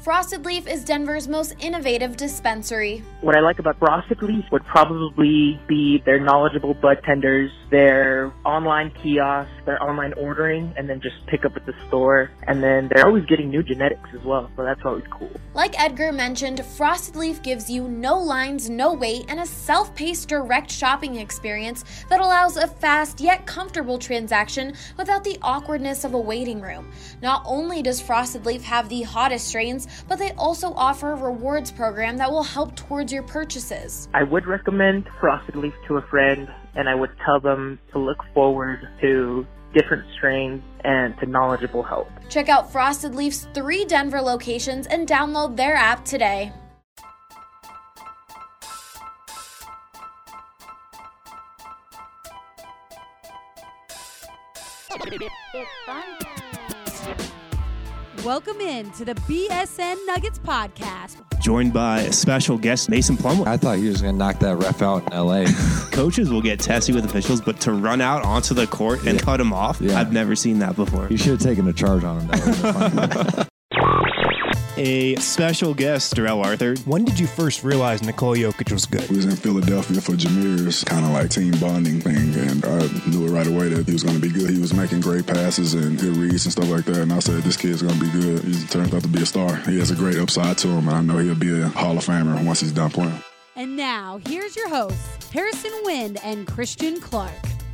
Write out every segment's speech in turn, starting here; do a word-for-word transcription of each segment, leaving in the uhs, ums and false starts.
Frosted Leaf is Denver's most innovative dispensary. What I like about Frosted Leaf would probably be their knowledgeable bud tenders, their online kiosks, their online ordering, and then just pick up at the store. And then they're always getting new genetics as well, so that's always cool. Like Edgar mentioned, Frosted Leaf gives you no lines, no wait, and a self-paced direct shopping experience that allows a fast yet comfortable transaction without the awkwardness of a waiting room. Not only does Frosted Leaf have the hottest strains, but they also offer a rewards program that will help towards your purchases. I would recommend Frosted Leaf to a friend, and I would tell them to look forward to different strains and to knowledgeable help. Check out Frosted Leaf's three Denver locations and download their app today. Welcome in to the B S N Nuggets podcast. Joined by a special guest, Mason Plumlee. I thought he was going to knock that ref out in L A. Coaches will get testy with officials, but to run out onto the court and yeah. cut him off, yeah. I've never seen that before. You should have taken a charge on him. That would have been A special guest, Darrell Arthur. When did you first realize Nikola Jokic was good? We was in Philadelphia for Jameer's kind of like team bonding thing, and I knew it right away that he was going to be good. He was making great passes and good reads and stuff like that, and I said, this kid's going to be good. He turns out to be a star. He has a great upside to him, and I know he'll be a Hall of Famer once he's done playing. And now, here's your hosts, Harrison Wind and Christian Clark.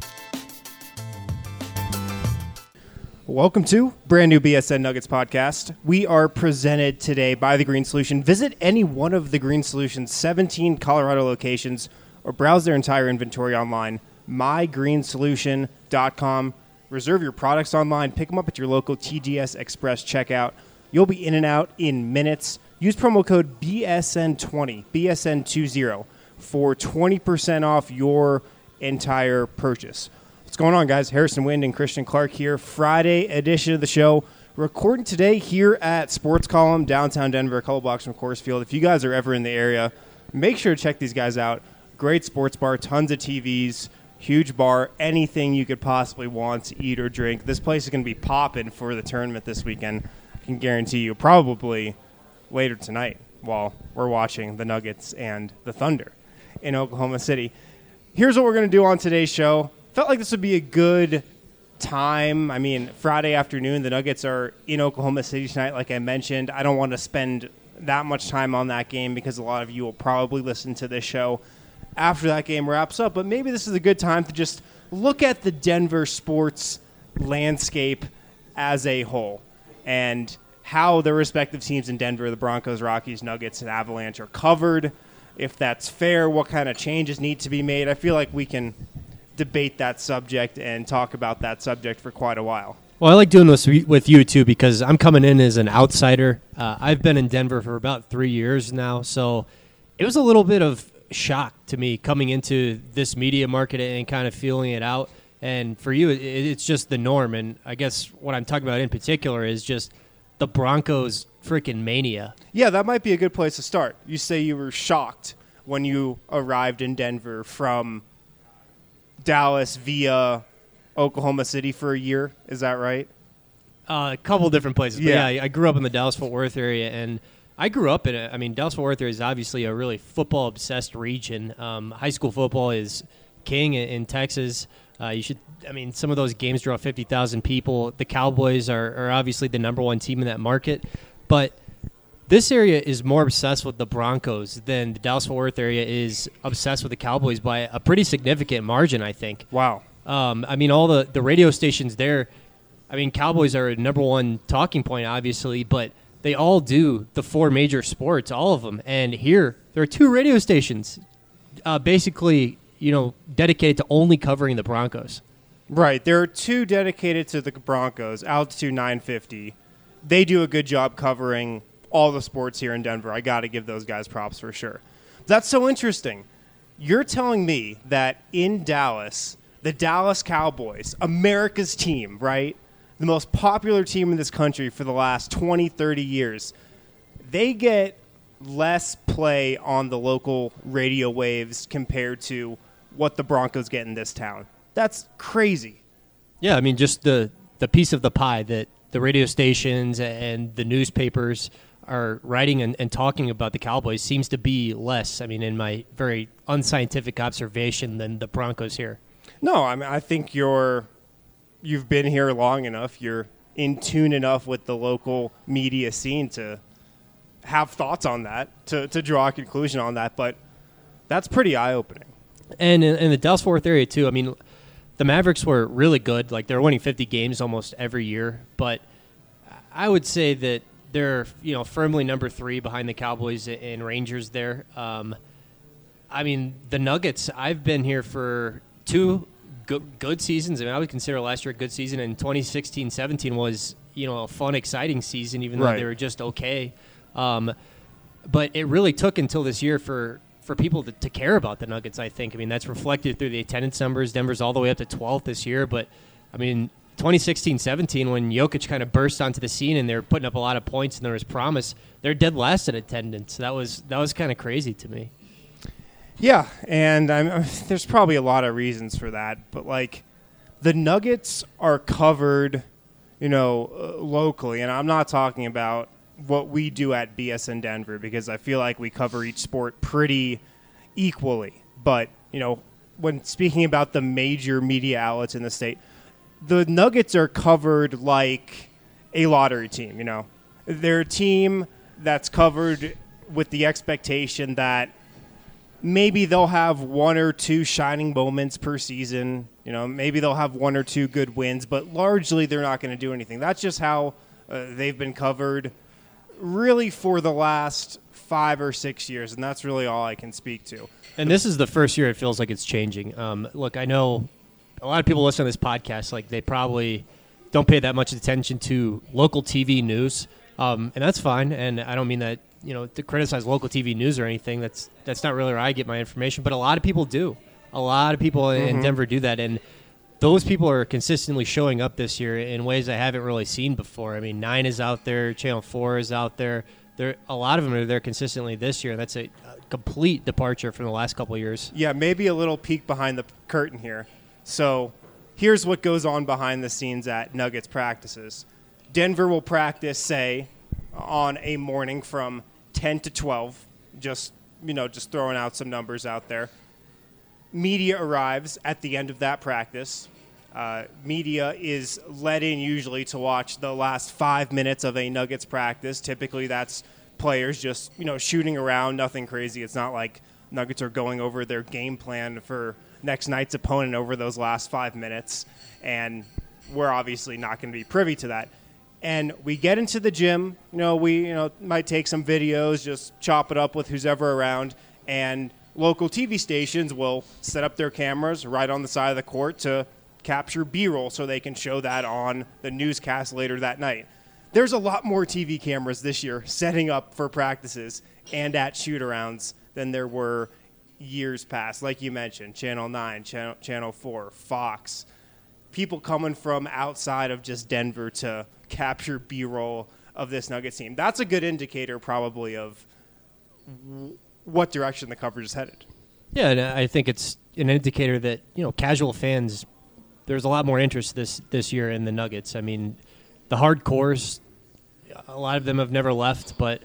Welcome to brand new B S N Nuggets podcast. We are presented today by The Green Solution. Visit any one of The Green Solution's seventeen Colorado locations or browse their entire inventory online, my green solution dot com. Reserve your products online. Pick them up at your local T G S Express checkout. You'll be in and out in minutes. Use promo code B S N twenty, B S N twenty, for twenty percent off your entire purchase. What's going on, guys? Harrison Wind and Christian Clark here. Friday edition of the show. Recording today here at Sports Column, downtown Denver, a couple blocks from Coors Field. If you guys are ever in the area, make sure to check these guys out. Great sports bar, tons of T Vs, huge bar, anything you could possibly want to eat or drink. This place is going to be popping for the tournament this weekend. I can guarantee you, probably later tonight while we're watching the Nuggets and the Thunder in Oklahoma City. Here's what we're going to do on today's show. Felt like this would be a good time. I mean, Friday afternoon, the Nuggets are in Oklahoma City tonight, like I mentioned. I don't want to spend that much time on that game because a lot of you will probably listen to this show after that game wraps up. But maybe this is a good time to just look at the Denver sports landscape as a whole and how the respective teams in Denver, the Broncos, Rockies, Nuggets, and Avalanche, are covered. If that's fair, what kind of changes need to be made. I feel like we can debate that subject and talk about that subject for quite a while. Well, I like doing this with you, too, because I'm coming in as an outsider. Uh, I've been in Denver for about three years now, so it was a little bit of shock to me coming into this media market and kind of feeling it out. And for you, it, it's just the norm. And I guess what I'm talking about in particular is just the Broncos freaking mania. Yeah, that might be a good place to start. You say you were shocked when you arrived in Denver from Dallas via Oklahoma City for a year. Is that right? Uh, a couple different places. Yeah. But yeah, I grew up in the Dallas-Fort Worth area, and I grew up in it. I mean, Dallas-Fort Worth area is obviously a really football-obsessed region. Um, high school football is king in, in Texas. Uh, you should. I mean, some of those games draw fifty thousand people. The Cowboys are, are obviously the number one team in that market, but this area is more obsessed with the Broncos than the Dallas-Fort Worth area is obsessed with the Cowboys by a pretty significant margin, I think. Wow. Um, I mean, all the, the radio stations there, I mean, Cowboys are a number one talking point, obviously, but they all do the four major sports, all of them. And here, there are two radio stations uh, basically, you know, dedicated to only covering the Broncos. Right. There are two dedicated to the Broncos, Altitude nine fifty. They do a good job covering all the sports here in Denver. I got to give those guys props for sure. That's so interesting. You're telling me that in Dallas, the Dallas Cowboys, America's team, right? The most popular team in this country for the last twenty, thirty years, they get less play on the local radio waves compared to what the Broncos get in this town. That's crazy. Yeah, I mean, just the, the piece of the pie that the radio stations and the newspapers are writing and, and talking about the Cowboys seems to be less, I mean, in my very unscientific observation, than the Broncos here. No, I mean, I think you're, you've been here long enough. You're in tune enough with the local media scene to have thoughts on that, to, to draw a conclusion on that. But that's pretty eye-opening. And in, in the Dallas-Fort Worth area, too, I mean, the Mavericks were really good. Like, they're winning fifty games almost every year. But I would say that they're, you know, firmly number three behind the Cowboys and Rangers there. Um, I mean, the Nuggets, I've been here for two good, good seasons. I mean, I would consider last year a good season, and twenty sixteen seventeen was, you know, a fun, exciting season, even though right. they were just okay. Um, but it really took until this year for, for people to, to care about the Nuggets, I think. I mean, that's reflected through the attendance numbers. Denver's all the way up to twelfth this year, but, I mean, twenty sixteen seventeen, when Jokic kind of burst onto the scene and they were putting up a lot of points and there was promise, they're dead last in attendance. That was that was kind of crazy to me. Yeah, and I'm, there's probably a lot of reasons for that, but like the Nuggets are covered, you know, uh, locally, and I'm not talking about what we do at B S N Denver because I feel like we cover each sport pretty equally. But you know, when speaking about the major media outlets in the state, the Nuggets are covered like a lottery team, you know. They're a team that's covered with the expectation that maybe they'll have one or two shining moments per season. You know, maybe they'll have one or two good wins, but largely they're not going to do anything. That's just how uh, they've been covered really for the last five or six years, and that's really all I can speak to. And this is the first year it feels like it's changing. Um, look, I know a lot of people listen to this podcast, like they probably don't pay that much attention to local T V news, um, and that's fine. And I don't mean that, you know, to criticize local T V news or anything. That's that's not really where I get my information. But a lot of people do. A lot of people mm-hmm. in Denver do that, and those people are consistently showing up this year in ways I haven't really seen before. I mean, Nine is out there, Channel Four is out there. There, a lot of them are there consistently this year. That's a, a complete departure from the last couple of years. Yeah, maybe a little peek behind the curtain here. So here's what goes on behind the scenes at Nuggets practices. Denver will practice, say, on a morning from ten to twelve, just, you know, just throwing out some numbers out there. Media arrives at the end of that practice. Uh, media is let in usually to watch the last five minutes of a Nuggets practice. Typically that's players just, you know, shooting around, nothing crazy. It's not like Nuggets are going over their game plan for next night's opponent over those last five minutes. And we're obviously not going to be privy to that. And we get into the gym, you know, we, you know, might take some videos, just chop it up with who's ever around, and local T V stations will set up their cameras right on the side of the court to capture B-roll so they can show that on the newscast later that night. There's a lot more T V cameras this year setting up for practices and at shoot-arounds than there were years past. Like you mentioned, Channel nine, Channel, Channel four, Fox. People coming from outside of just Denver to capture B-roll of this Nuggets team. That's a good indicator probably of w- what direction the coverage is headed. Yeah, and I think it's an indicator that, you know, casual fans, there's a lot more interest this, this year in the Nuggets. I mean, the hardcores, a lot of them have never left, but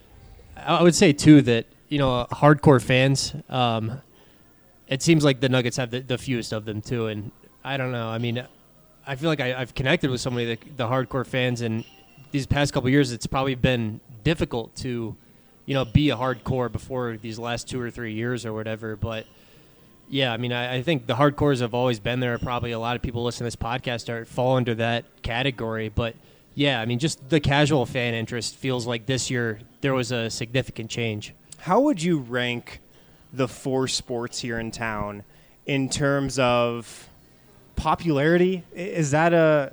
I would say, too, that, you know, hardcore fans, um, it seems like the Nuggets have the, the fewest of them, too, and I don't know. I mean, I feel like I, I've connected with so many of the, the hardcore fans, and these past couple of years, it's probably been difficult to, you know, be a hardcore before these last two or three years or whatever. But, yeah, I mean, I, I think the hardcores have always been there. Probably a lot of people listening to this podcast are fall under that category. But, yeah, I mean, just the casual fan interest feels like this year there was a significant change. How would you rank the four sports here in town in terms of popularity? Is that a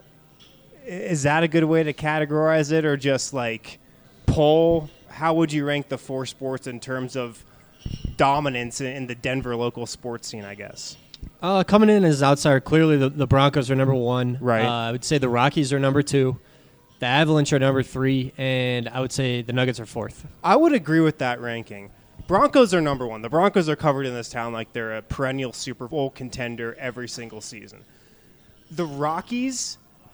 is that a good way to categorize it, or just like poll? How would you rank the four sports in terms of dominance in the Denver local sports scene, I guess? Uh, coming in as outsider, clearly the, the Broncos are number one. Right. Uh, I would say the Rockies are number two. The Avalanche are number three, and I would say the Nuggets are fourth. I would agree with that ranking. Broncos are number one. The Broncos are covered in this town like they're a perennial Super Bowl contender every single season. The Rockies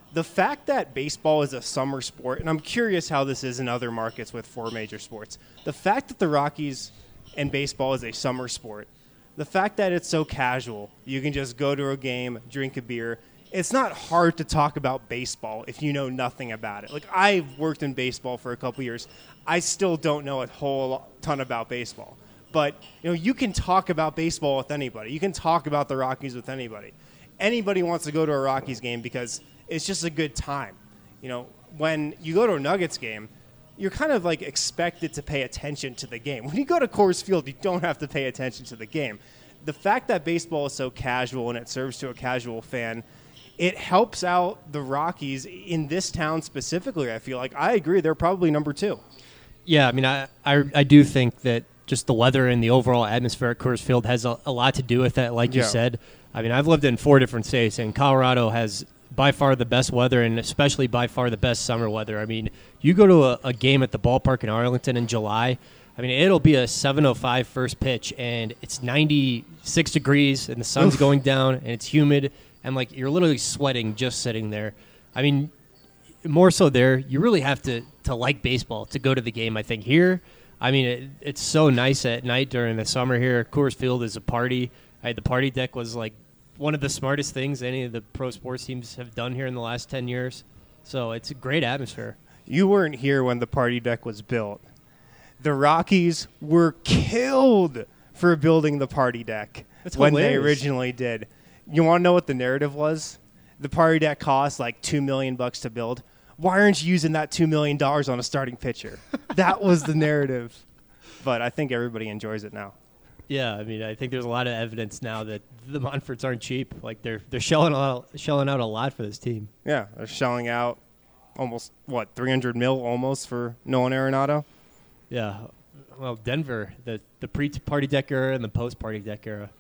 The fact that baseball is a summer sport, and I'm curious how this is in other markets with four major sports, the fact that the Rockies and baseball is a summer sport, the fact that it's so casual, you can just go to a game, drink a beer. It's not hard to talk about baseball if you know nothing about it. Like, I've worked in baseball for a couple years. I still don't know a whole ton about baseball. But, you know, you can talk about baseball with anybody. You can talk about the Rockies with anybody. Anybody wants to go to a Rockies game because it's just a good time. You know, when you go to a Nuggets game, you're kind of like expected to pay attention to the game. When you go to Coors Field, you don't have to pay attention to the game. The fact that baseball is so casual and it serves to a casual fan, it helps out the Rockies in this town specifically. I feel like I agree. They're probably number two. Yeah, I mean, I, I, I do think that just the weather and the overall atmosphere at Coors Field has a, a lot to do with that, like yeah. you said. I mean, I've lived in four different states, and Colorado has by far the best weather, and especially by far the best summer weather. I mean, you go to a, a game at the ballpark in Arlington in July, I mean, it'll be a seven oh five first pitch, and it's ninety-six degrees, and the sun's Oof. going down, and it's humid, and, like, you're literally sweating just sitting there. I mean, more so there, you really have to, to like baseball to go to the game, I think. Here, I mean, it, it's so nice at night during the summer here. Coors Field is a party. I, the party deck was, like, one of the smartest things any of the pro sports teams have done here in the last ten years. So it's a great atmosphere. You weren't here when the party deck was built. The Rockies were killed for building the party deck That's when hilarious. they originally did. You want to know what the narrative was? The party deck cost like two million bucks to build. Why aren't you using that two million dollars on a starting pitcher? That was the narrative. But I think everybody enjoys it now. Yeah, I mean, I think there's a lot of evidence now that the Monforts aren't cheap. Like they're they're shelling out shelling out a lot for this team. Yeah, they're shelling out almost what three hundred mil almost for Nolan Arenado. Yeah, well, Denver, the the pre-party deck era and the post-party deck era.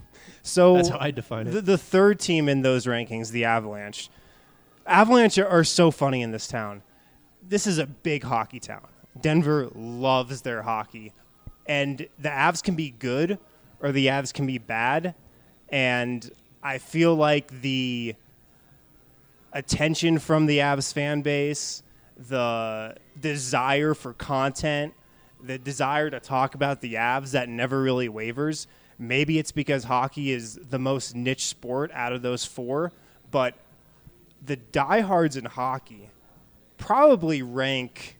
So that's how I define it. The, the third team in those rankings, the Avalanche. Avalanche are so funny in this town. This is a big hockey town. Denver loves their hockey. And the Avs can be good or the Avs can be bad. And I feel like the attention from the Avs fan base, the desire for content, the desire to talk about the Avs that never really wavers. Maybe it's because hockey is the most niche sport out of those four, but the diehards in hockey probably rank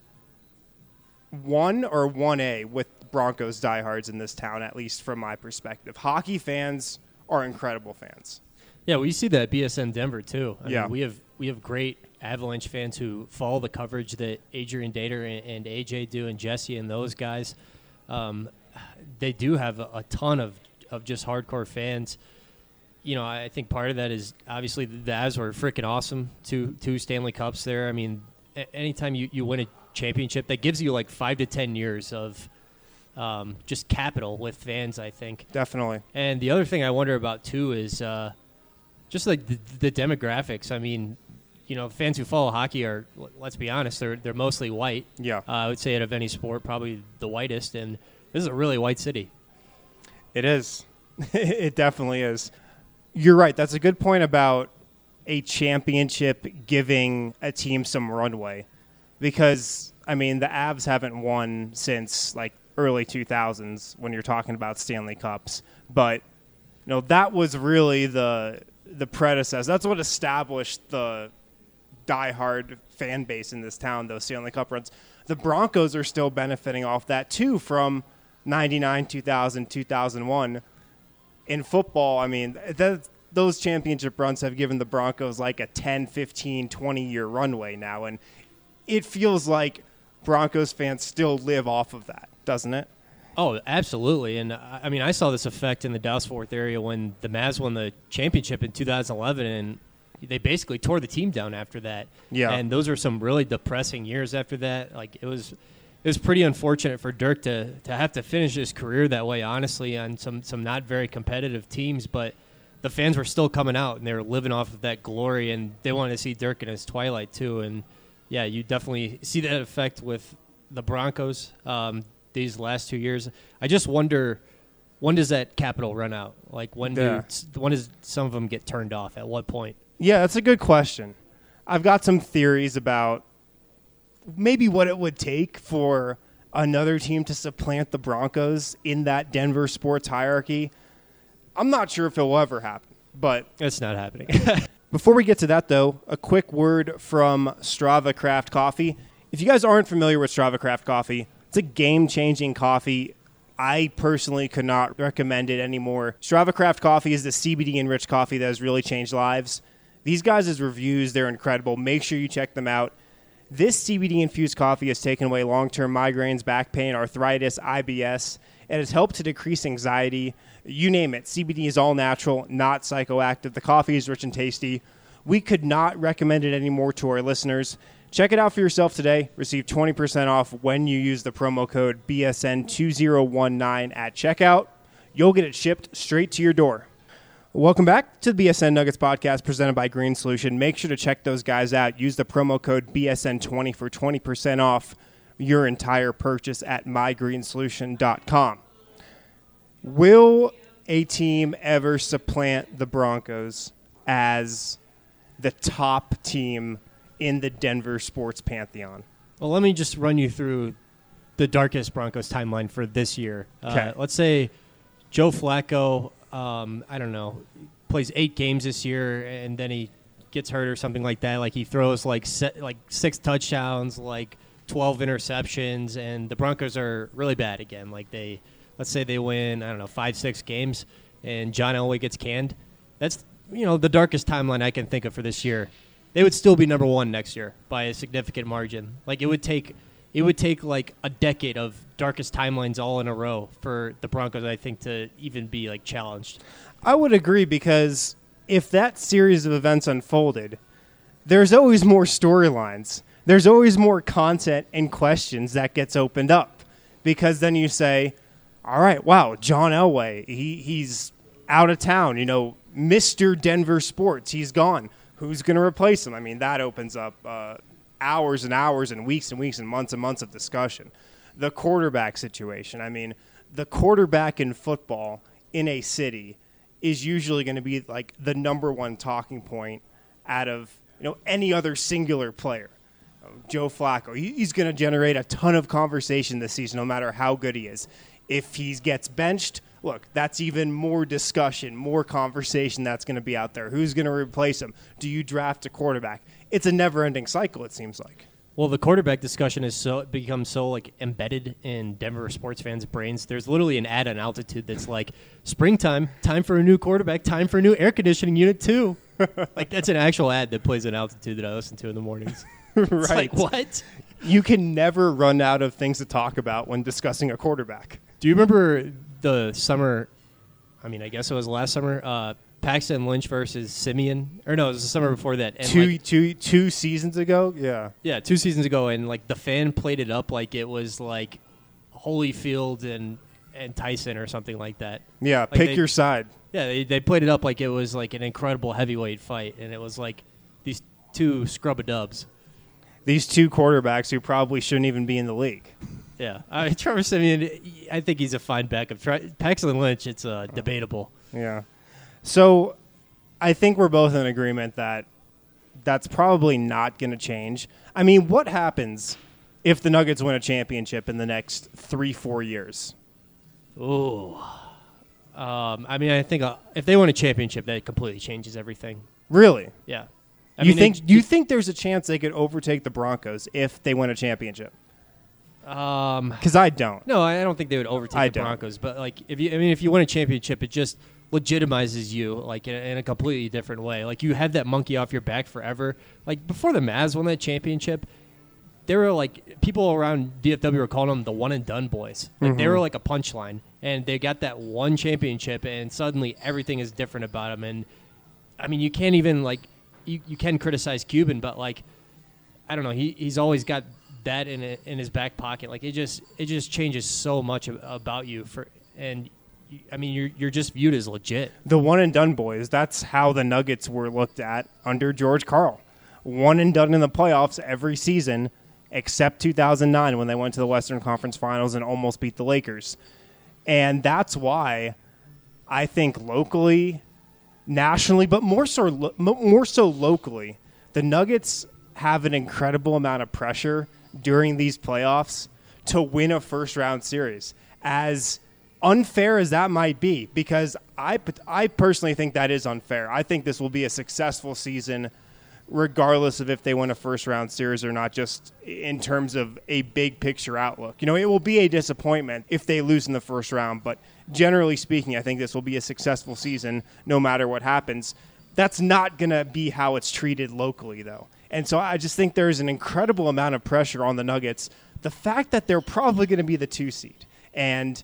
one or one A with Broncos diehards in this town, at least from my perspective. Hockey fans are incredible fans. Yeah, we see that at B S N Denver too. I yeah, mean, we have we have great Avalanche fans who follow the coverage that Adrian Dater and, and A J do, and Jesse and those guys. Um, they do have a, a ton of, of just hardcore fans. You know, I think part of that is obviously the Avs were freaking awesome. Two two Stanley Cups there. I mean, a- anytime you, you win a championship, that gives you like five to ten years of um, just capital with fans, I think. Definitely. And the other thing I wonder about, too, is uh, just like the, the demographics. I mean, you know, fans who follow hockey are, let's be honest, they're they're mostly white. Yeah. Uh, I would say out of any sport, probably the whitest. And this is a really white city. It is. It definitely is. You're right. That's a good point about a championship giving a team some runway. Because, I mean, the Avs haven't won since, like, early two thousands when you're talking about Stanley Cups. But, you know, that was really the the predecessor. That's what established the diehard fan base in this town, those Stanley Cup runs. The Broncos are still benefiting off that, too, from ninety-nine, two thousand, two thousand one. In football, I mean, that, those championship runs have given the Broncos like a ten, fifteen, twenty-year runway now. And it feels like Broncos fans still live off of that, doesn't it? Oh, absolutely. And, I mean, I saw this effect in the Dallas-Fort Worth area when the Mavs won the championship in two thousand eleven, and they basically tore the team down after that. Yeah. And those were some really depressing years after that. Like, it was it was pretty unfortunate for Dirk to, to have to finish his career that way, honestly, on some, some not very competitive teams. But the fans were still coming out, and they were living off of that glory, and they wanted to see Dirk in his twilight, too. And, yeah, you definitely see that effect with the Broncos um, these last two years. I just wonder, when does that capital run out? Like, when, Yeah. do, when does some of them get turned off? At what point? Yeah, that's a good question. I've got some theories about maybe what it would take for another team to supplant the Broncos in that Denver sports hierarchy. I'm not sure if it will ever happen, but it's not happening. Before we get to that, though, a quick word from Strava Craft Coffee. If you guys aren't familiar with Strava Craft Coffee, it's a game-changing coffee. I personally could not recommend it anymore. Strava Craft Coffee is the C B D-enriched coffee that has really changed lives. These guys' reviews, they're incredible. Make sure you check them out. This C B D-infused coffee has taken away long-term migraines, back pain, arthritis, I B S. It has helped to decrease anxiety. You name it. C B D is all natural, not psychoactive. The coffee is rich and tasty. We could not recommend it anymore to our listeners. Check it out for yourself today. Receive twenty percent off when you use the promo code B S N two zero one nine at checkout. You'll get it shipped straight to your door. Welcome back to the B S N Nuggets podcast presented by Green Solution. Make sure to check those guys out. Use the promo code B S N twenty for twenty percent off your entire purchase at my green solution dot com. Will a team ever supplant the Broncos as the top team in the Denver sports pantheon? Well, let me just run you through the darkest Broncos timeline for this year. Okay. Uh, let's say Joe Flacco, um, I don't know, plays eight games this year, and then he gets hurt or something like that. Like he throws like se- like six touchdowns, like twelve interceptions, and the Broncos are really bad again. Like they, let's say they win, I don't know, five, six games, and John Elway gets canned. That's, you know, the darkest timeline I can think of for this year. They would still be number one next year by a significant margin. Like it would take, it would take like a decade of darkest timelines all in a row for the Broncos, I think, to even be like challenged. I would agree, because if that series of events unfolded, there's always more storylines. There's always more content and questions that gets opened up, because then you say, all right, wow, John Elway, he he's out of town, you know, Mister Denver Sports, he's gone. Who's going to replace him? I mean, that opens up uh, hours and hours and weeks and weeks and months and months of discussion. The quarterback situation. I mean, the quarterback in football in a city is usually going to be like the number one talking point out of, you know, any other singular player. Joe Flacco, he, he's going to generate a ton of conversation this season, no matter how good he is. If he gets benched, look, that's even more discussion, more conversation that's going to be out there. Who's going to replace him? Do you draft a quarterback? It's a never-ending cycle, it seems like. Well, the quarterback discussion is so become so like embedded in Denver sports fans' brains. There's literally an ad on Altitude that's like, springtime, time for a new quarterback, time for a new air conditioning unit too. Like that's an actual ad that plays on Altitude that I listen to in the mornings. It's Right. like, what? You can never run out of things to talk about when discussing a quarterback. Do you remember the summer, I mean, I guess it was last summer, uh, Paxton Lynch versus Simeon? Or no, it was the summer before that. And Two, like, two, two seasons ago? Yeah. yeah, two seasons ago, and like the fan played it up like it was like Holyfield and, and Tyson or something like that. Yeah, Like pick they- your side. Yeah, they, they played it up like it was like an incredible heavyweight fight, and it was like these two scrub-a-dubs. These two quarterbacks who probably shouldn't even be in the league. Yeah, I mean, Trevor Simeon, I think he's a fine backup. Tra- Paxton Lynch, it's uh, debatable. Yeah. So I think we're both in agreement that that's probably not going to change. I mean, what happens if the Nuggets win a championship in the next three, four years? Ooh. Um, I mean, I think uh, if they win a championship, that completely changes everything. Really? Yeah. I you mean, think? it- Do you think there's a chance they could overtake the Broncos if they win a championship? Um, Because I don't. no, I don't think they would overtake I the don't. Broncos. But like, if you, I mean, if you win a championship, it just legitimizes you like in a, in a completely different way. Like you have that monkey off your back forever. Like before the Mavs won that championship, there were like people around D F W were calling them the one and done boys. Like they were like a punchline, and they got that one championship, and suddenly everything is different about them. And I mean, you can't even like you, you can criticize Cuban, but like I don't know, he he's always got that in it, in his back pocket. Like it just it just changes so much ab- about you for and. I mean, you're you're just viewed as legit. The one and done boys, that's how the Nuggets were looked at under George Karl. One and done in the playoffs every season, except two thousand nine when they went to the Western Conference Finals and almost beat the Lakers. And that's why I think locally, nationally, but more so, lo- more so locally, the Nuggets have an incredible amount of pressure during these playoffs to win a first-round series, as unfair as that might be, because I, I personally think that is unfair. I think this will be a successful season regardless of if they win a first-round series or not, just in terms of a big-picture outlook. You know, it will be a disappointment if they lose in the first round, but generally speaking, I think this will be a successful season no matter what happens. That's not going to be how it's treated locally, though. And so I just think there's an incredible amount of pressure on the Nuggets. The fact that they're probably going to be the two seed and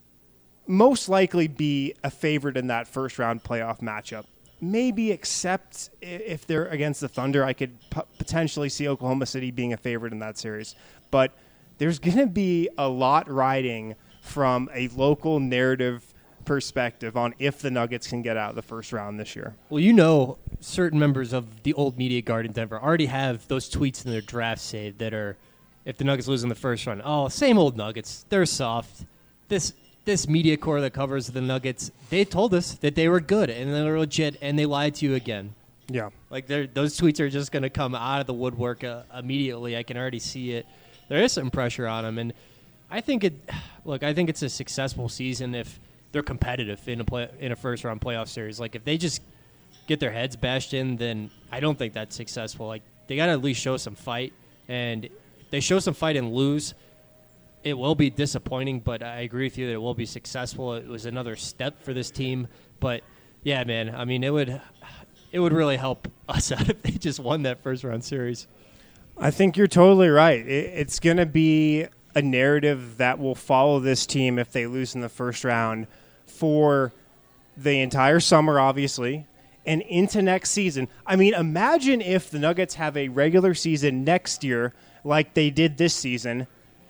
most likely be a favorite in that first-round playoff matchup. Maybe except if they're against the Thunder, I could p- potentially see Oklahoma City being a favorite in that series. But there's going to be a lot riding from a local narrative perspective on if the Nuggets can get out of the first round this year. Well, you know, certain members of the old media guard in Denver already have those tweets in their draft saved that are, if the Nuggets lose in the first round, oh, same old Nuggets. They're soft. This This media corps that covers the Nuggets, they told us that they were good and they were legit, and they lied to you again. Yeah. Like, those tweets are just going to come out of the woodwork uh, immediately. I can already see it. There is some pressure on them, and I think it. Look, I think it's a successful season if they're competitive in a play, in a first round playoff series. Like, if they just get their heads bashed in, then I don't think that's successful. Like, they got to at least show some fight, and if they show some fight and lose, it will be disappointing, but I agree with you that it will be successful. It was another step for this team. But, yeah, man, I mean, it would it would really help us out if they just won that first-round series. I think you're totally right. It's going to be a narrative that will follow this team if they lose in the first round for the entire summer, obviously, and into next season. I mean, imagine if the Nuggets have a regular season next year like they did this season,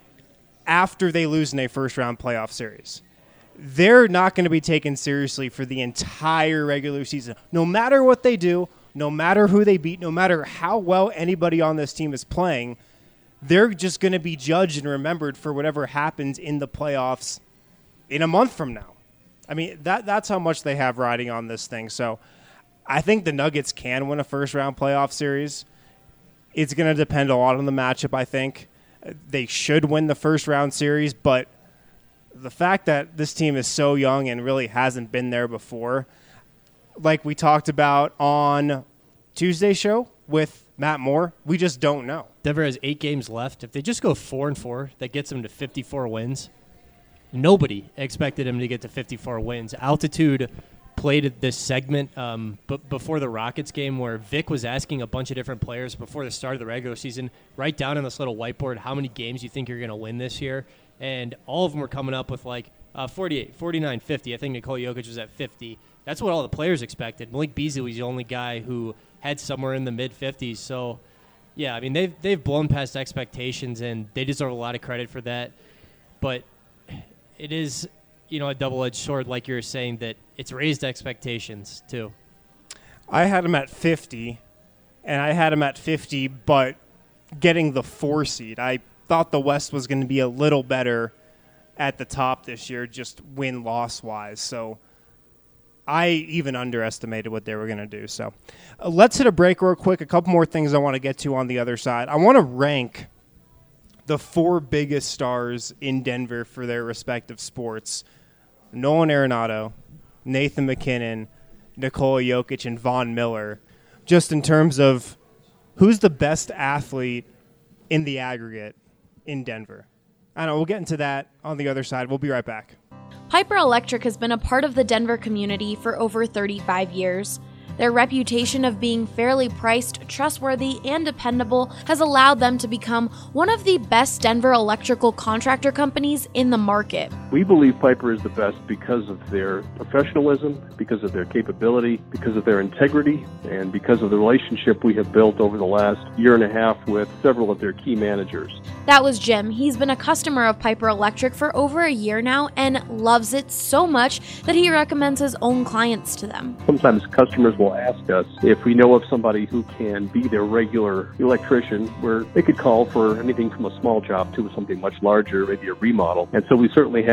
after they lose in a first-round playoff series. They're not going to be taken seriously for the entire regular season. No matter what they do, no matter who they beat, no matter how well anybody on this team is playing, they're just going to be judged and remembered for whatever happens in the playoffs in a month from now. I mean, that that's how much they have riding on this thing. So I think the Nuggets can win a first-round playoff series. It's going to depend a lot on the matchup, I think. They should win the first round series, but the fact that this team is so young and really hasn't been there before, like we talked about on Tuesday's show with Matt Moore, we just don't know. Denver has eight games left. If they just go four and four, that gets them to fifty-four wins. Nobody expected him to get to fifty-four wins. Altitude played this segment um, b- before the Rockets game where Vic was asking a bunch of different players before the start of the regular season, write down on this little whiteboard how many games you think you're going to win this year. And all of them were coming up with like uh, forty-eight, forty-nine, fifty. I think Nikola Jokic was at fifty. That's what all the players expected. Malik Beasley was the only guy who had somewhere in the mid-fifties. So, yeah, I mean, they've, they've blown past expectations, and they deserve a lot of credit for that. But it is, you know, a double-edged sword, like you were saying, that it's raised expectations, too. I had them at fifty, and I had them at fifty, but getting the four seed. I thought the West was going to be a little better at the top this year, just win-loss-wise. So I even underestimated what they were going to do. So uh, let's hit a break real quick. A couple more things I want to get to on the other side. I want to rank the four biggest stars in Denver for their respective sports: Nolan Arenado, Nathan McKinnon, Nikola Jokic, and Von Miller, just in terms of who's the best athlete in the aggregate in Denver. I don't know. We'll get into that on the other side. We'll be right back. Piper Electric has been a part of the Denver community for over thirty-five years. Their reputation of being fairly priced, trustworthy, and dependable has allowed them to become one of the best Denver electrical contractor companies in the market. We believe Piper is the best because of their professionalism, because of their capability, because of their integrity, and because of the relationship we have built over the last year and a half with several of their key managers. That was Jim. He's been a customer of Piper Electric for over a year now and loves it so much that he recommends his own clients to them. Sometimes customers will ask us if we know of somebody who can be their regular electrician, where they could call for anything from a small job to something much larger, maybe a remodel. And so we certainly have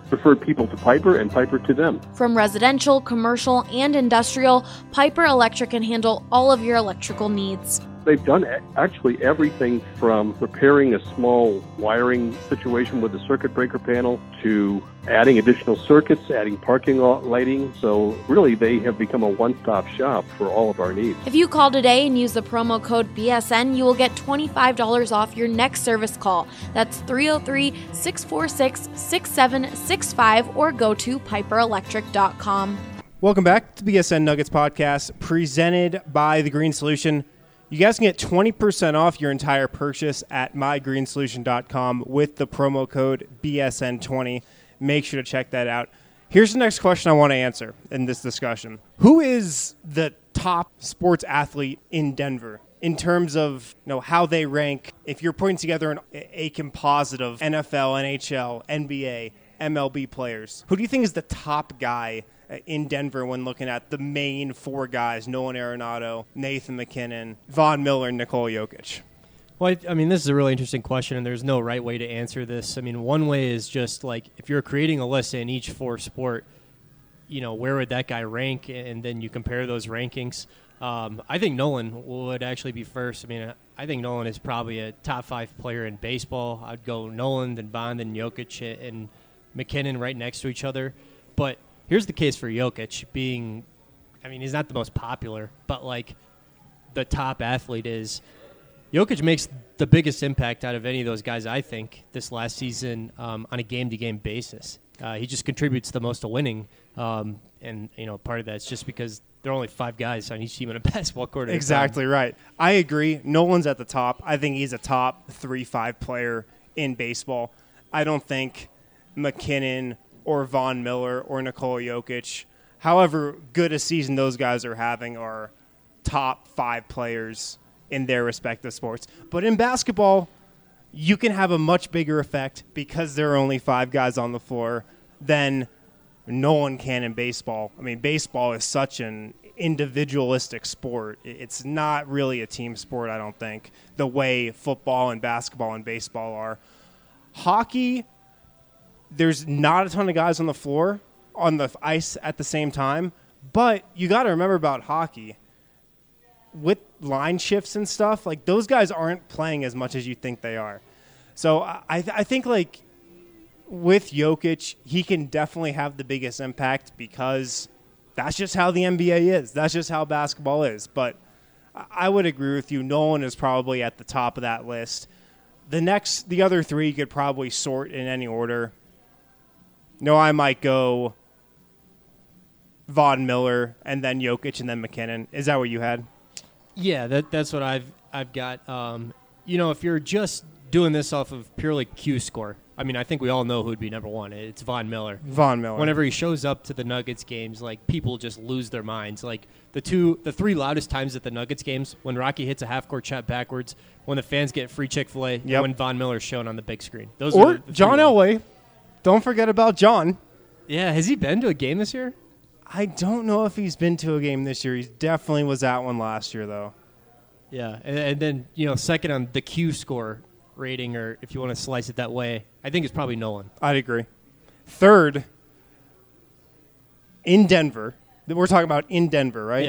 referred people to Piper and Piper to them. From residential, commercial, and industrial, Piper Electric can handle all of your electrical needs. They've done actually everything from repairing a small wiring situation with the circuit breaker panel to adding additional circuits, adding parking lot lighting. So really, they have become a one-stop shop for all of our needs. If you call today and use the promo code B S N, you will get twenty-five dollars off your next service call. That's three oh three, six four six, six seven six five or go to piper electric dot com. Welcome back to the B S N Nuggets podcast, presented by The Green Solution. You guys can get twenty percent off your entire purchase at my green solution dot com with the promo code B S N twenty. Make sure to check that out. Here's the next question I want to answer in this discussion. Who is the top sports athlete in Denver in terms of, you know, how they rank? If you're putting together an, a composite of N F L, N H L, N B A, M L B players, who do you think is the top guy in Denver when looking at the main four guys: Nolan Arenado, Nathan MacKinnon, Von Miller, and Nikola Jokic? Well, I, I mean, this is a really interesting question, and there's no right way to answer this. I mean, one way is just like if you're creating a list in each four sport, you know, where would that guy rank, and then you compare those rankings. Um, I think Nolan would actually be first. I mean, I think Nolan is probably a top five player in baseball. I'd go Nolan, then Von, then Jokic, and McKinnon right next to each other. But here's the case for Jokic being, I mean, he's not the most popular, but like the top athlete is. Jokic makes the biggest impact out of any of those guys, I think, this last season um, on a game-to-game basis. Uh, he just contributes the most to winning, um, and you know, part of that's just because there are only five guys on each team in a basketball court. Exactly right. I agree. Nolan's at the top. I think he's a top three, five player in baseball. I don't think McKinnon or Von Miller or Nikola Jokic, however good a season those guys are having, are top five players in their respective sports. But in basketball, you can have a much bigger effect because there are only five guys on the floor than no one can in baseball. I mean, baseball is such an individualistic sport. It's not really a team sport, I don't think, the way football and basketball and baseball are. Hockey, there's not a ton of guys on the floor, on the ice at the same time, but you got to remember about hockey. With line shifts and stuff, like those guys aren't playing as much as you think they are. So I, th- I think like with Jokic, he can definitely have the biggest impact because that's just how the N B A is. That's just how basketball is. But I would agree with you. Nolan is probably at the top of that list. The next, the other three you could probably sort in any order. No, I might go Von Miller and then Jokic and then McKinnon. Is that what you had? Yeah, that that's what I've I've got. Um, you know, if you're just doing this off of purely Q score, I mean, I think we all know who would be number one. It's Von Miller. Von Miller. Whenever he shows up to the Nuggets games, like people just lose their minds. Like the two, the three loudest times at the Nuggets games, when Rocky hits a half court shot backwards, when the fans get free Chick-fil-A, yep. when Von Miller's shown on the big screen. Those or are the John Elway. Don't forget about John. Yeah, has he been to a game this year? I don't know if he's been to a game this year. He definitely was at one last year, though. Yeah, and, and then, you know, second on the Q score rating, or if you want to slice it that way, I think it's probably Nolan. I'd agree. Third, in Denver. We're talking about in Denver, right? Yeah.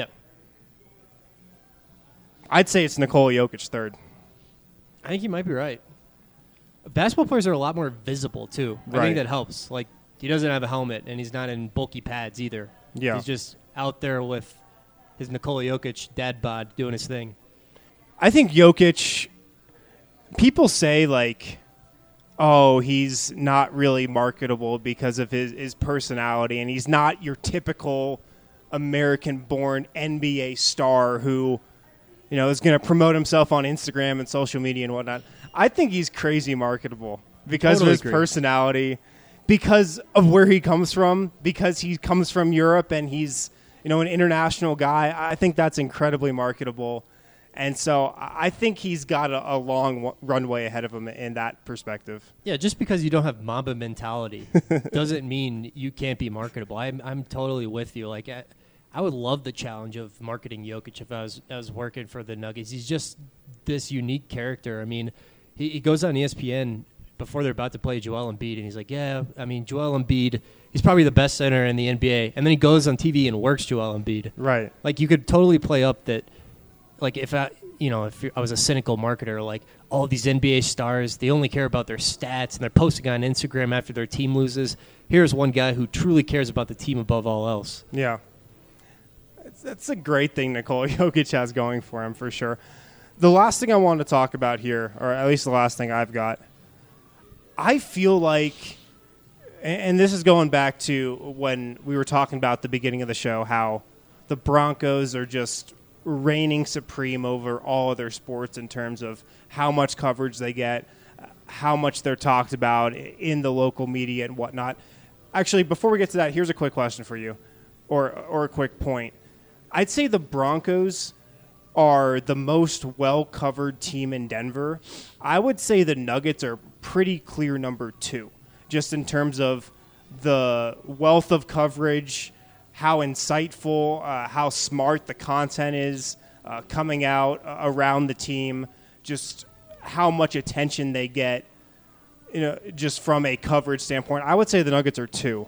I'd say it's Nikola Jokic third. I think you might be right. Basketball players are a lot more visible, too. I right. think that helps. Like, he doesn't have a helmet, and he's not in bulky pads either. Yeah. He's just out there with his Nikola Jokic dad bod doing his thing. I think Jokic, people say, like, oh, he's not really marketable because of his, his personality, and he's not your typical American-born N B A star who, you know, is going to promote himself on Instagram and social media and whatnot. I think he's crazy marketable because totally of his agree. personality, because of where he comes from, because he comes from Europe and he's, you know, an international guy. I think that's incredibly marketable. And so I think he's got a, a long runway ahead of him in that perspective. Yeah, just because you don't have Mamba mentality doesn't mean you can't be marketable. I'm I'm totally with you. Like I, I would love the challenge of marketing Jokic if I was I was working for the Nuggets. He's just this unique character. I mean, he, he goes on E S P N before they're about to play Joel Embiid, and he's like, yeah, I mean, Joel Embiid, he's probably the best center in the N B A. And then he goes on T V and works Joel Embiid. Right. Like, you could totally play up that, like, if I, you know, if I was a cynical marketer, like, all these N B A stars, they only care about their stats, and they're posting on Instagram after their team loses. Here's one guy who truly cares about the team above all else. Yeah. That's a great thing Nikola Jokic has going for him, for sure. The last thing I want to talk about here, or at least the last thing I've got, I feel like, and this is going back to when we were talking about at the beginning of the show, how the Broncos are just reigning supreme over all other sports in terms of how much coverage they get, how much they're talked about in the local media and whatnot. Actually, before we get to that, here's a quick question for you, or or a quick point. I'd say the Broncos are the most well-covered team in Denver. I would say the Nuggets are pretty clear number two, just in terms of the wealth of coverage, how insightful, uh, how smart the content is uh, coming out uh, around the team, just how much attention they get, you know, just from a coverage standpoint. I would say the Nuggets are two.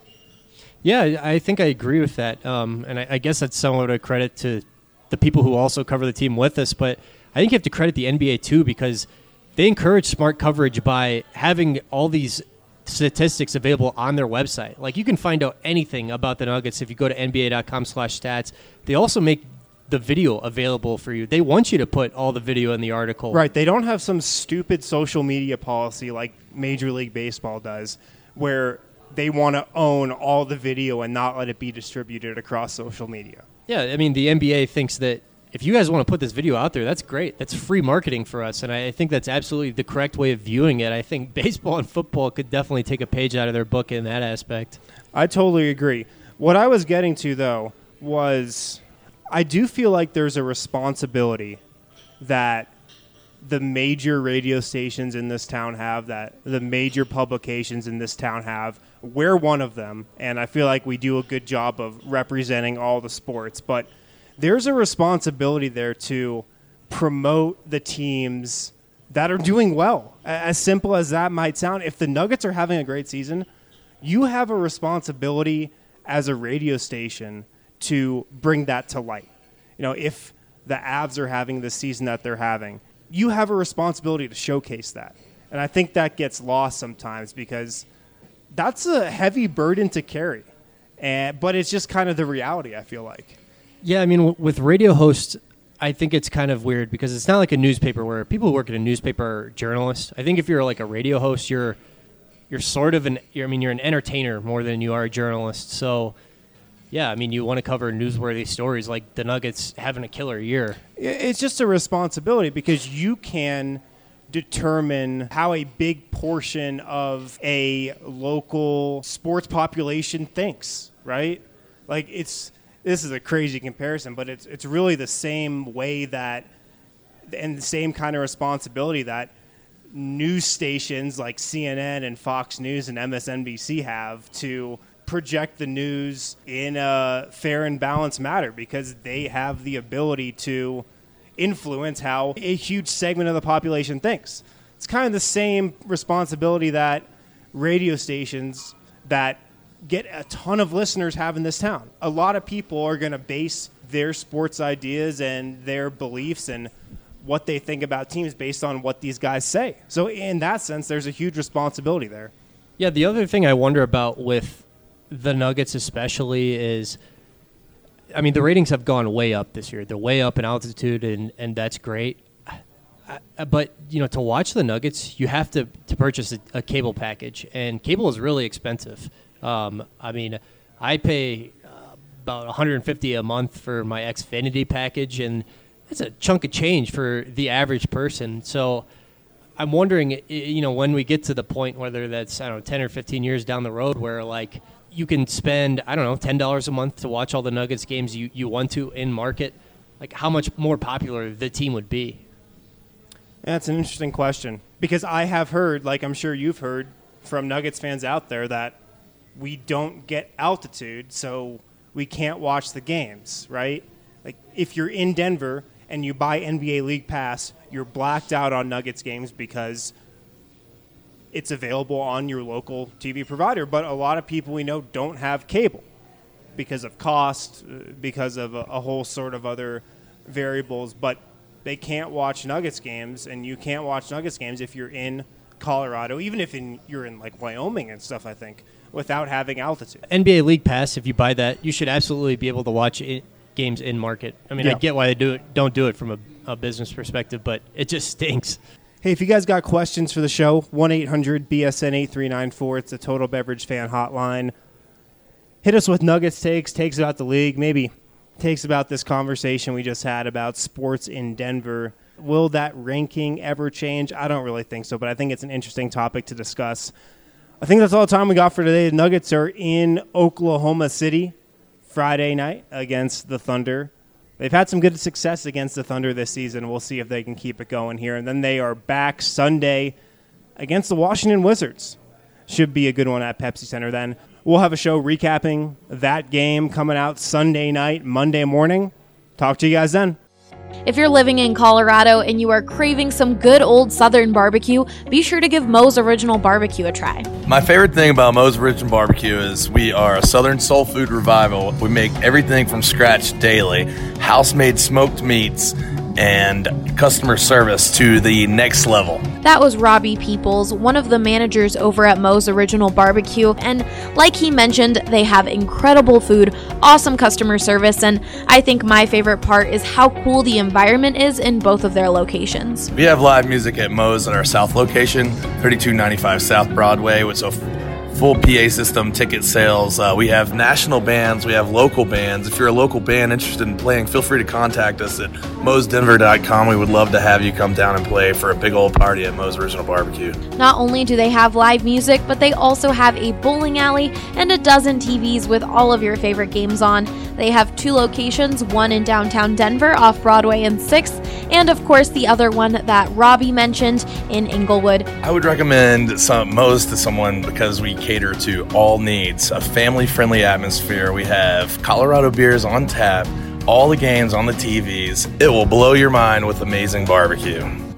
Yeah, I think I agree with that. Um, and I, I guess that's somewhat a credit to the people who also cover the team with us. But I think you have to credit the N B A, too, because they encourage smart coverage by having all these statistics available on their website. Like, you can find out anything about the Nuggets if you go to N B A dot com slash stats. They also make the video available for you. They want you to put all the video in the article. Right. They don't have some stupid social media policy like Major League Baseball does, where they want to own all the video and not let it be distributed across social media. Yeah, I mean, the N B A thinks that if you guys want to put this video out there, that's great. That's free marketing for us, and I think that's absolutely the correct way of viewing it. I think baseball and football could definitely take a page out of their book in that aspect. I totally agree. What I was getting to, though, was I do feel like there's a responsibility that the major radio stations in this town have, that the major publications in this town have. We're one of them, and I feel like we do a good job of representing all the sports. But there's a responsibility there to promote the teams that are doing well. As simple as that might sound, if the Nuggets are having a great season, you have a responsibility as a radio station to bring that to light. You know, if the Avs are having the season that they're having, you have a responsibility to showcase that. And I think that gets lost sometimes because that's a heavy burden to carry. And but it's just kind of the reality, I feel like. Yeah, I mean, w- with radio hosts, I think it's kind of weird because it's not like a newspaper where people who work at a newspaper are journalists. I think if you're like a radio host, you're you're sort of an you're, I mean, you're an entertainer more than you are a journalist. So, yeah, I mean, you want to cover newsworthy stories like the Nuggets having a killer year. It's just a responsibility because you can determine how a big portion of a local sports population thinks, right? Like, it's this is a crazy comparison, but it's it's really the same way that and the same kind of responsibility that news stations like C N N and Fox News and M S N B C have to project the news in a fair and balanced manner because they have the ability to influence how a huge segment of the population thinks. It's kind of the same responsibility that radio stations that get a ton of listeners have in this town. A lot of people are going to base their sports ideas and their beliefs and what they think about teams based on what these guys say. So in that sense, there's a huge responsibility there. Yeah, the other thing I wonder about with the Nuggets especially is, I mean, the ratings have gone way up this year. They're way up in altitude, and, and that's great. I, but, you know, to watch the Nuggets, you have to, to purchase a, a cable package, and cable is really expensive. Um, I mean, I pay uh, about one hundred fifty dollars a month for my Xfinity package, and that's a chunk of change for the average person. So I'm wondering, you know, when we get to the point, whether that's, I don't know, ten or fifteen years down the road, where, like, you can spend, I don't know, ten dollars a month to watch all the Nuggets games you, you want to in market, like how much more popular the team would be? That's an interesting question because I have heard, like I'm sure you've heard from Nuggets fans out there, that we don't get altitude, so we can't watch the games, right? Like if you're in Denver and you buy N B A League Pass, you're blacked out on Nuggets games because it's available on your local T V provider. But a lot of people we know don't have cable because of cost, because of a, a whole sort of other variables. But they can't watch Nuggets games, and you can't watch Nuggets games if you're in Colorado, even if in, you're in like Wyoming and stuff, I think, without having altitude. N B A League Pass, if you buy that, you should absolutely be able to watch it, games in market. I mean, yeah. I get why they do it, don't do it from a, a business perspective, but it just stinks. Hey, if you guys got questions for the show, one eight hundred B S N eight three nine four. It's the Total Beverage Fan Hotline. Hit us with Nuggets takes, takes about the league, maybe takes about this conversation we just had about sports in Denver. Will that ranking ever change? I don't really think so, but I think it's an interesting topic to discuss. I think that's all the time we got for today. The Nuggets are in Oklahoma City Friday night against the Thunder. They've had some good success against the Thunder this season. We'll see if they can keep it going here. And then they are back Sunday against the Washington Wizards. Should be a good one at Pepsi Center then. We'll have a show recapping that game coming out Sunday night, Monday morning. Talk to you guys then. If you're living in Colorado and you are craving some good old Southern barbecue, be sure to give Moe's Original Barbecue a try. My favorite thing about Moe's Original Barbecue is we are a Southern soul food revival. We make everything from scratch daily, house-made smoked meats, and customer service to the next level. That was Robbie Peoples, one of the managers over at Moe's Original Barbecue, and like he mentioned, they have incredible food, awesome customer service, and I think my favorite part is how cool the environment is in both of their locations. We have live music at Moe's at our South location, thirty-two ninety-five South Broadway, with a full P A system, ticket sales. Uh, we have national bands, we have local bands. If you're a local band interested in playing, feel free to contact us at moes denver dot com. We would love to have you come down and play for a big old party at Moe's Original Barbecue. Not only do they have live music, but they also have a bowling alley and a dozen T Vs with all of your favorite games on. They have two locations, one in downtown Denver off Broadway and sixth, and of course the other one that Robbie mentioned in Inglewood. I would recommend some Moe's to someone because we cater to all needs, a family-friendly atmosphere. We have Colorado beers on tap, all the games on the T Vs. It will blow your mind with amazing barbecue.